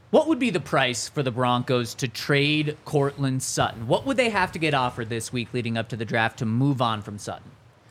What would be the price for the Broncos to trade Courtland Sutton? What would they have to get offered this week leading up to the draft to move on from Sutton?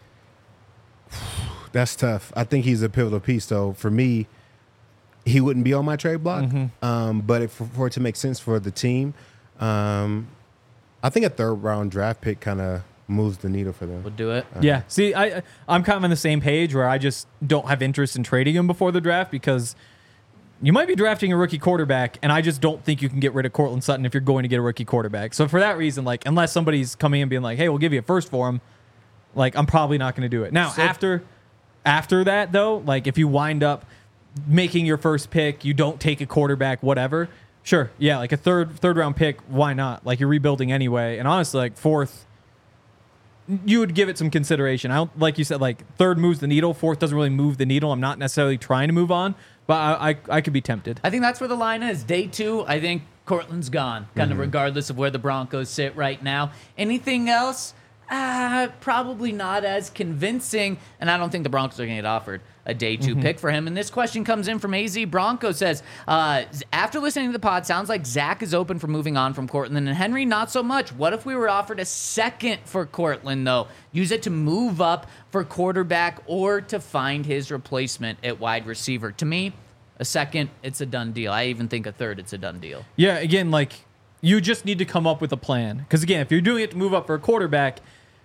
That's tough. I think he's a pivotal piece, though. For me, he wouldn't be on my trade block. But for it to make sense for the team, I think a third-round draft pick kind of moves the needle for them. Would do it. Yeah. See, I'm kind of on the same page where I just don't have interest in trading him before the draft because you might be drafting a rookie quarterback, and I just don't think you can get rid of Courtland Sutton if you're going to get a rookie quarterback. So for that reason, like, unless somebody's coming in and being like, hey, we'll give you a first for him, like, I'm probably not going to do it. Now, after that, though, like, if you wind up making your first pick, you don't take a quarterback, whatever, sure, yeah, like a third round pick, why not? Like, you're rebuilding anyway. And honestly, like, fourth, you would give it some consideration. I don't, like you said, like, third moves the needle, fourth doesn't really move the needle. I'm not necessarily trying to move on, but I could be tempted. I think that's where the line is. Day 2, I think Courtland's gone, kind of regardless of where the Broncos sit right now. Anything else? Probably not as convincing, and I don't think the Broncos are going to get offered a day 2 pick for him. And this question comes in from AZ Bronco, says, after listening to the pod, sounds like Zach is open for moving on from Courtland, and Henry not so much. What if we were offered a second for Courtland, though? Use it to move up for quarterback or to find his replacement at wide receiver. To me, a second, it's a done deal. I even think a third, it's a done deal. Yeah, again, like, you just need to come up with a plan. Because, again, if you're doing it to move up for a quarterback,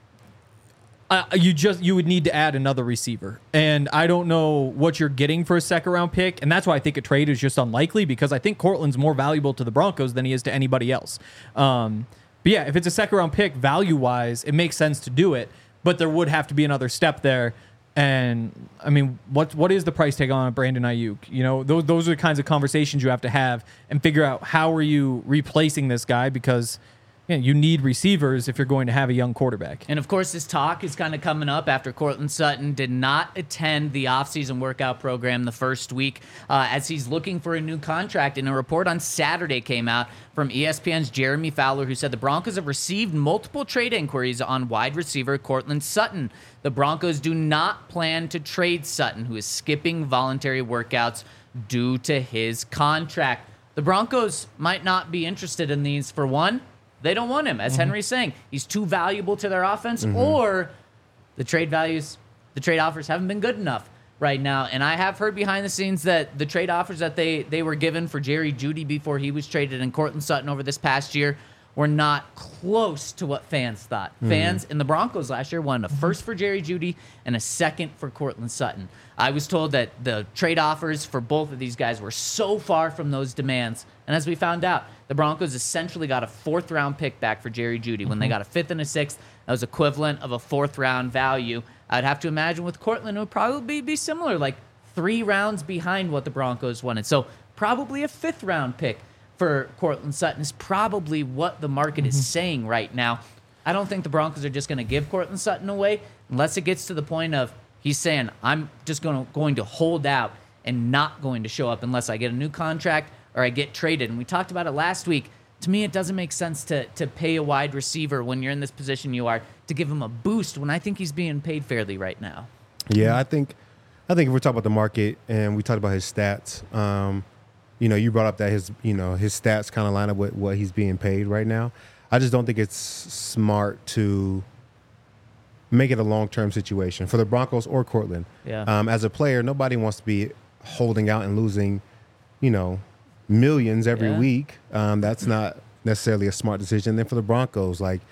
you would need to add another receiver. And I don't know what you're getting for a second-round pick, and that's why I think a trade is just unlikely, because I think Courtland's more valuable to the Broncos than he is to anybody else. But, yeah, if it's a second-round pick, value-wise, it makes sense to do it, but there would have to be another step there. And, I mean, what is the price tag on Brandon Ayuk? You know, those are the kinds of conversations you have to have and figure out how are you replacing this guy, because you need receivers if you're going to have a young quarterback. And, of course, this talk is kind of coming up after Courtland Sutton did not attend the offseason workout program the first week as he's looking for a new contract. And a report on Saturday came out from ESPN's Jeremy Fowler, who said the Broncos have received multiple trade inquiries on wide receiver Courtland Sutton. The Broncos do not plan to trade Sutton, who is skipping voluntary workouts due to his contract. The Broncos might not be interested in these. For one, they don't want him, as Henry's saying. He's too valuable to their offense, or the trade offers haven't been good enough right now. And I have heard behind the scenes that the trade offers that they were given for Jerry Jeudy before he was traded and Courtland Sutton over this past year were not close to what fans thought. Fans in the Broncos last year wanted a first for Jerry Jeudy and a second for Courtland Sutton. I was told that the trade offers for both of these guys were so far from those demands. And as we found out, the Broncos essentially got a 4th-round pick back for Jerry Jeudy. When they got a 5th and a 6th, that was equivalent of a 4th-round value. I'd have to imagine with Courtland, it would probably be similar, like 3 rounds behind what the Broncos wanted. So probably a 5th-round pick for Courtland Sutton is probably what the market is saying right now. I don't think the Broncos are just going to give Courtland Sutton away unless it gets to the point of he's saying, I'm just going to hold out and not going to show up unless I get a new contract or I get traded. And we talked about it last week. To me, it doesn't make sense to pay a wide receiver when you're in this position you are to give him a boost when I think he's being paid fairly right now. Yeah, I think if we're talking about the market and we talked about his stats, you brought up that his stats kind of line up with what he's being paid right now. I just don't think it's smart to make it a long-term situation for the Broncos or Courtland. Yeah. As a player, nobody wants to be holding out and losing, millions every week. That's not necessarily a smart decision. Then for the Broncos, like,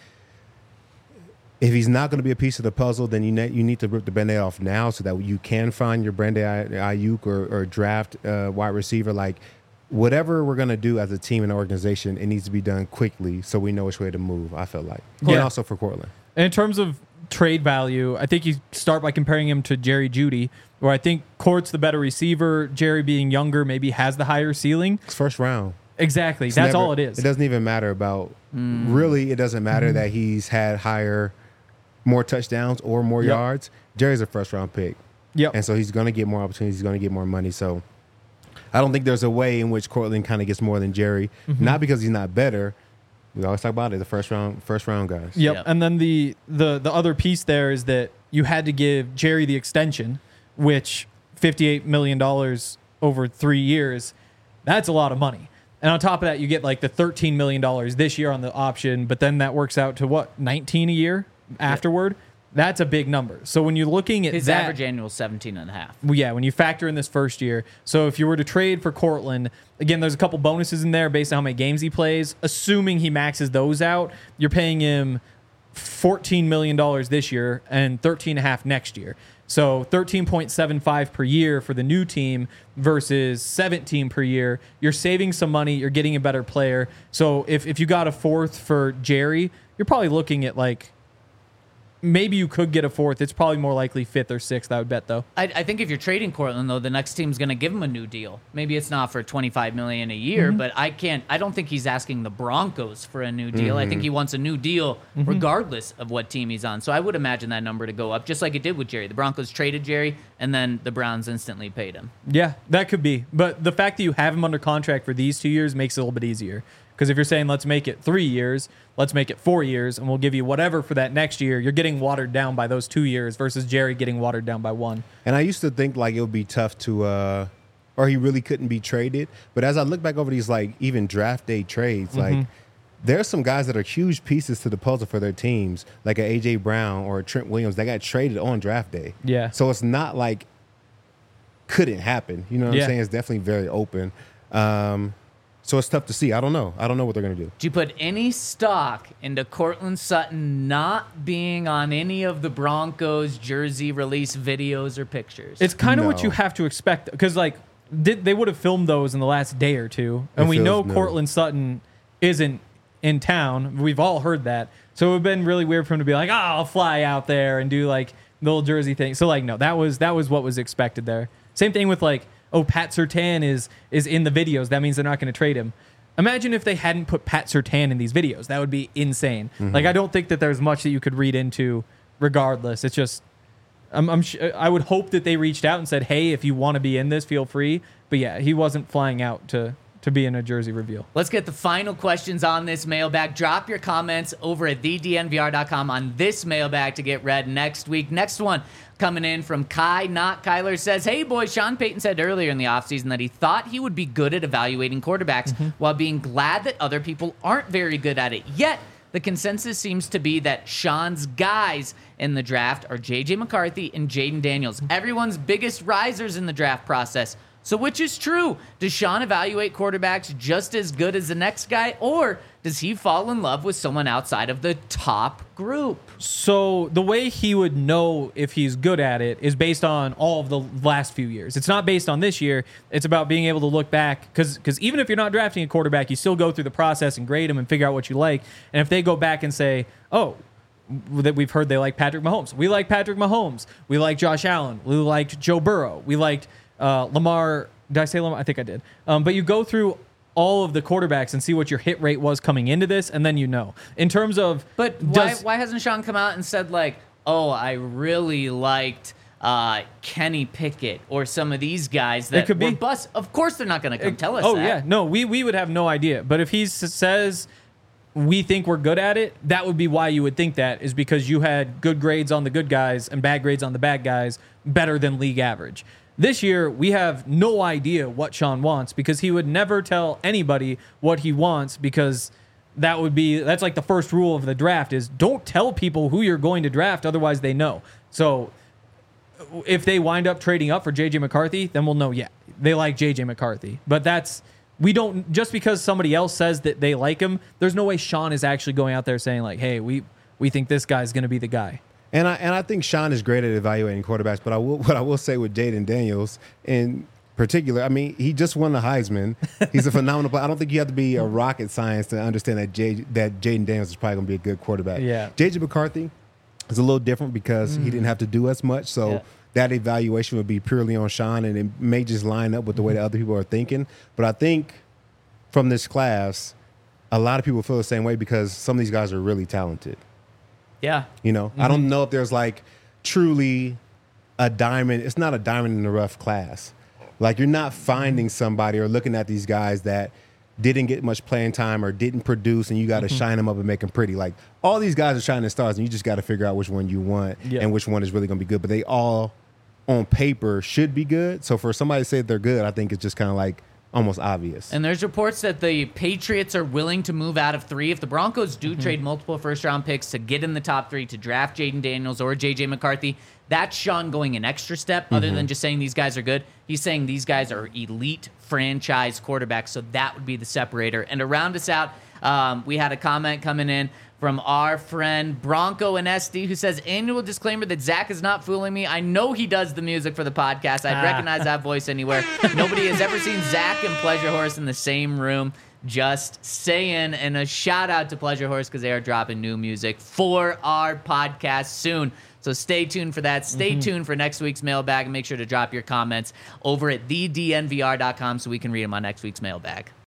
if he's not going to be a piece of the puzzle, then you need to rip the Band-Aid off now so that you can find your Brandon Ayuk or draft wide receiver. Like, whatever we're going to do as a team and organization, it needs to be done quickly so we know which way to move, I feel like. Yeah. And also for Courtland. And in terms of trade value, I think you start by comparing him to Jerry Jeudy, where I think Court's the better receiver. Jerry, being younger, maybe has the higher ceiling. It's first round. Exactly. That's all it is. It doesn't even matter about really. It doesn't matter that he's had more touchdowns or more yards. Jerry's a first round pick. Yep. And so he's going to get more opportunities. He's going to get more money. So I don't think there's a way in which Courtland kind of gets more than Jerry. Not because he's not better. We always talk about it, the first round guys. Yep. And then the other piece there is that you had to give Jerry the extension, which $58 million over 3 years, that's a lot of money. And on top of that, you get like the $13 million this year on the option, but then that works out to what, 19 a year afterward? That's a big number. So when you're looking at his average annual is 17.5. Well, yeah, when you factor in this first year. So if you were to trade for Cortland, again, there's a couple bonuses in there based on how many games he plays. Assuming he maxes those out, you're paying him $14 million this year and $13.5 next year. So 13.75 per year for the new team versus 17 per year. You're saving some money. You're getting a better player. So if you got a fourth for Jerry, you're probably looking at like, maybe you could get a fourth. It's probably more likely fifth or sixth, I would bet, though. I think if you're trading Cortland, though, the next team's going to give him a new deal. Maybe it's not for $25 million a year, but I don't think he's asking the Broncos for a new deal. I think he wants a new deal regardless of what team he's on. So I would imagine that number to go up, just like it did with Jerry. The Broncos traded Jerry, and then the Browns instantly paid him. Yeah, that could be. But the fact that you have him under contract for these 2 years makes it a little bit easier. Because if you're saying, let's make it 3 years, let's make it 4 years, and we'll give you whatever for that next year, you're getting watered down by those 2 years versus Jerry getting watered down by one. And I used to think like it would be tough to, or he really couldn't be traded. But as I look back over these like even draft day trades, like there's some guys that are huge pieces to the puzzle for their teams, like a A.J. Brown or a Trent Williams that got traded on draft day. Yeah. So it's not like couldn't happen. You know what I'm saying? It's definitely very open. So it's tough to see. I don't know. I don't know what they're going to do. Do you put any stock into Cortland Sutton not being on any of the Broncos jersey release videos or pictures? It's kind of what No. you have to expect. Because, like, they would have filmed those in the last day or two. And It we know feels new. Cortland Sutton isn't in town. We've all heard that. So it would have been really weird for him to be like, I'll fly out there and do, like, the little jersey thing. So, like, no, that was what was expected there. Same thing with, like, Pat Surtain is in the videos. That means they're not going to trade him. Imagine if they hadn't put Pat Surtain in these videos. That would be insane. Like, I don't think that there's much that you could read into regardless. It's just, I would hope that they reached out and said, hey, if you want to be in this, feel free. But yeah, he wasn't flying out to be in a jersey reveal. Let's get the final questions on this mailbag. Drop your comments over at thednvr.com on this mailbag to get read next week. Next one coming in from Kai, not Kyler, says, hey, boys, Sean Payton said earlier in the offseason that he thought he would be good at evaluating quarterbacks while being glad that other people aren't very good at it. Yet, the consensus seems to be that Sean's guys in the draft are J.J. McCarthy and Jaden Daniels, everyone's biggest risers in the draft process. So which is true? Does Sean evaluate quarterbacks just as good as the next guy, or does he fall in love with someone outside of the top group? So the way he would know if he's good at it is based on all of the last few years. It's not based on this year. It's about being able to look back, because even if you're not drafting a quarterback, you still go through the process and grade them and figure out what you like. And if they go back and say, oh, that we've heard they like Patrick Mahomes. We like Patrick Mahomes. We like Josh Allen. We liked Joe Burrow. We liked Lamar. Did I say Lamar? I think I did. But you go through all of the quarterbacks and see what your hit rate was coming into this, and then you know. In terms of... But why hasn't Sean come out and said, like, oh, I really liked Kenny Pickett or some of these guys that were bust? Of course they're not going to come tell us that. Oh, yeah. No, we would have no idea. But if he says we think we're good at it, that would be why you would think that, is because you had good grades on the good guys and bad grades on the bad guys, better than league average. This year, we have no idea what Sean wants, because he would never tell anybody what he wants, because that's like the first rule of the draft is don't tell people who you're going to draft, otherwise they know. So if they wind up trading up for J.J. McCarthy, then we'll know, yeah, they like J.J. McCarthy. But we don't, just because somebody else says that they like him, there's no way Sean is actually going out there saying like, hey, we think this guy's going to be the guy. And I think Sean is great at evaluating quarterbacks, but what I will say with Jaden Daniels in particular, I mean, he just won the Heisman. He's a phenomenal player. I don't think you have to be a rocket science to understand that Jaden Daniels is probably going to be a good quarterback. Yeah. J.J. McCarthy is a little different because he didn't have to do as much, so that evaluation would be purely on Sean, and it may just line up with the way that other people are thinking. But I think from this class, a lot of people feel the same way because some of these guys are really talented. Yeah. You know, I don't know if there's like truly a diamond. It's not a diamond in the rough class. Like, you're not finding somebody or looking at these guys that didn't get much playing time or didn't produce, and you got to shine them up and make them pretty. Like, all these guys are shining stars, and you just got to figure out which one you want and which one is really going to be good. But they all, on paper, should be good. So for somebody to say they're good, I think it's just kind of like almost obvious. And there's reports that the Patriots are willing to move out of 3. If the Broncos do trade multiple first-round picks to get in the top 3 to draft Jaden Daniels or J.J. McCarthy, that's Sean going an extra step other than just saying these guys are good. He's saying these guys are elite franchise quarterbacks, so that would be the separator. And to round us out, we had a comment coming in from our friend Bronco and SD, who says, annual disclaimer that Zach is not fooling me. I know he does the music for the podcast. I'd recognize that voice anywhere. Nobody has ever seen Zach and Pleasure Horse in the same room. Just saying. And a shout out to Pleasure Horse because they are dropping new music for our podcast soon. So stay tuned for that. Stay tuned for next week's mailbag, and make sure to drop your comments over at thednvr.com so we can read them on next week's mailbag.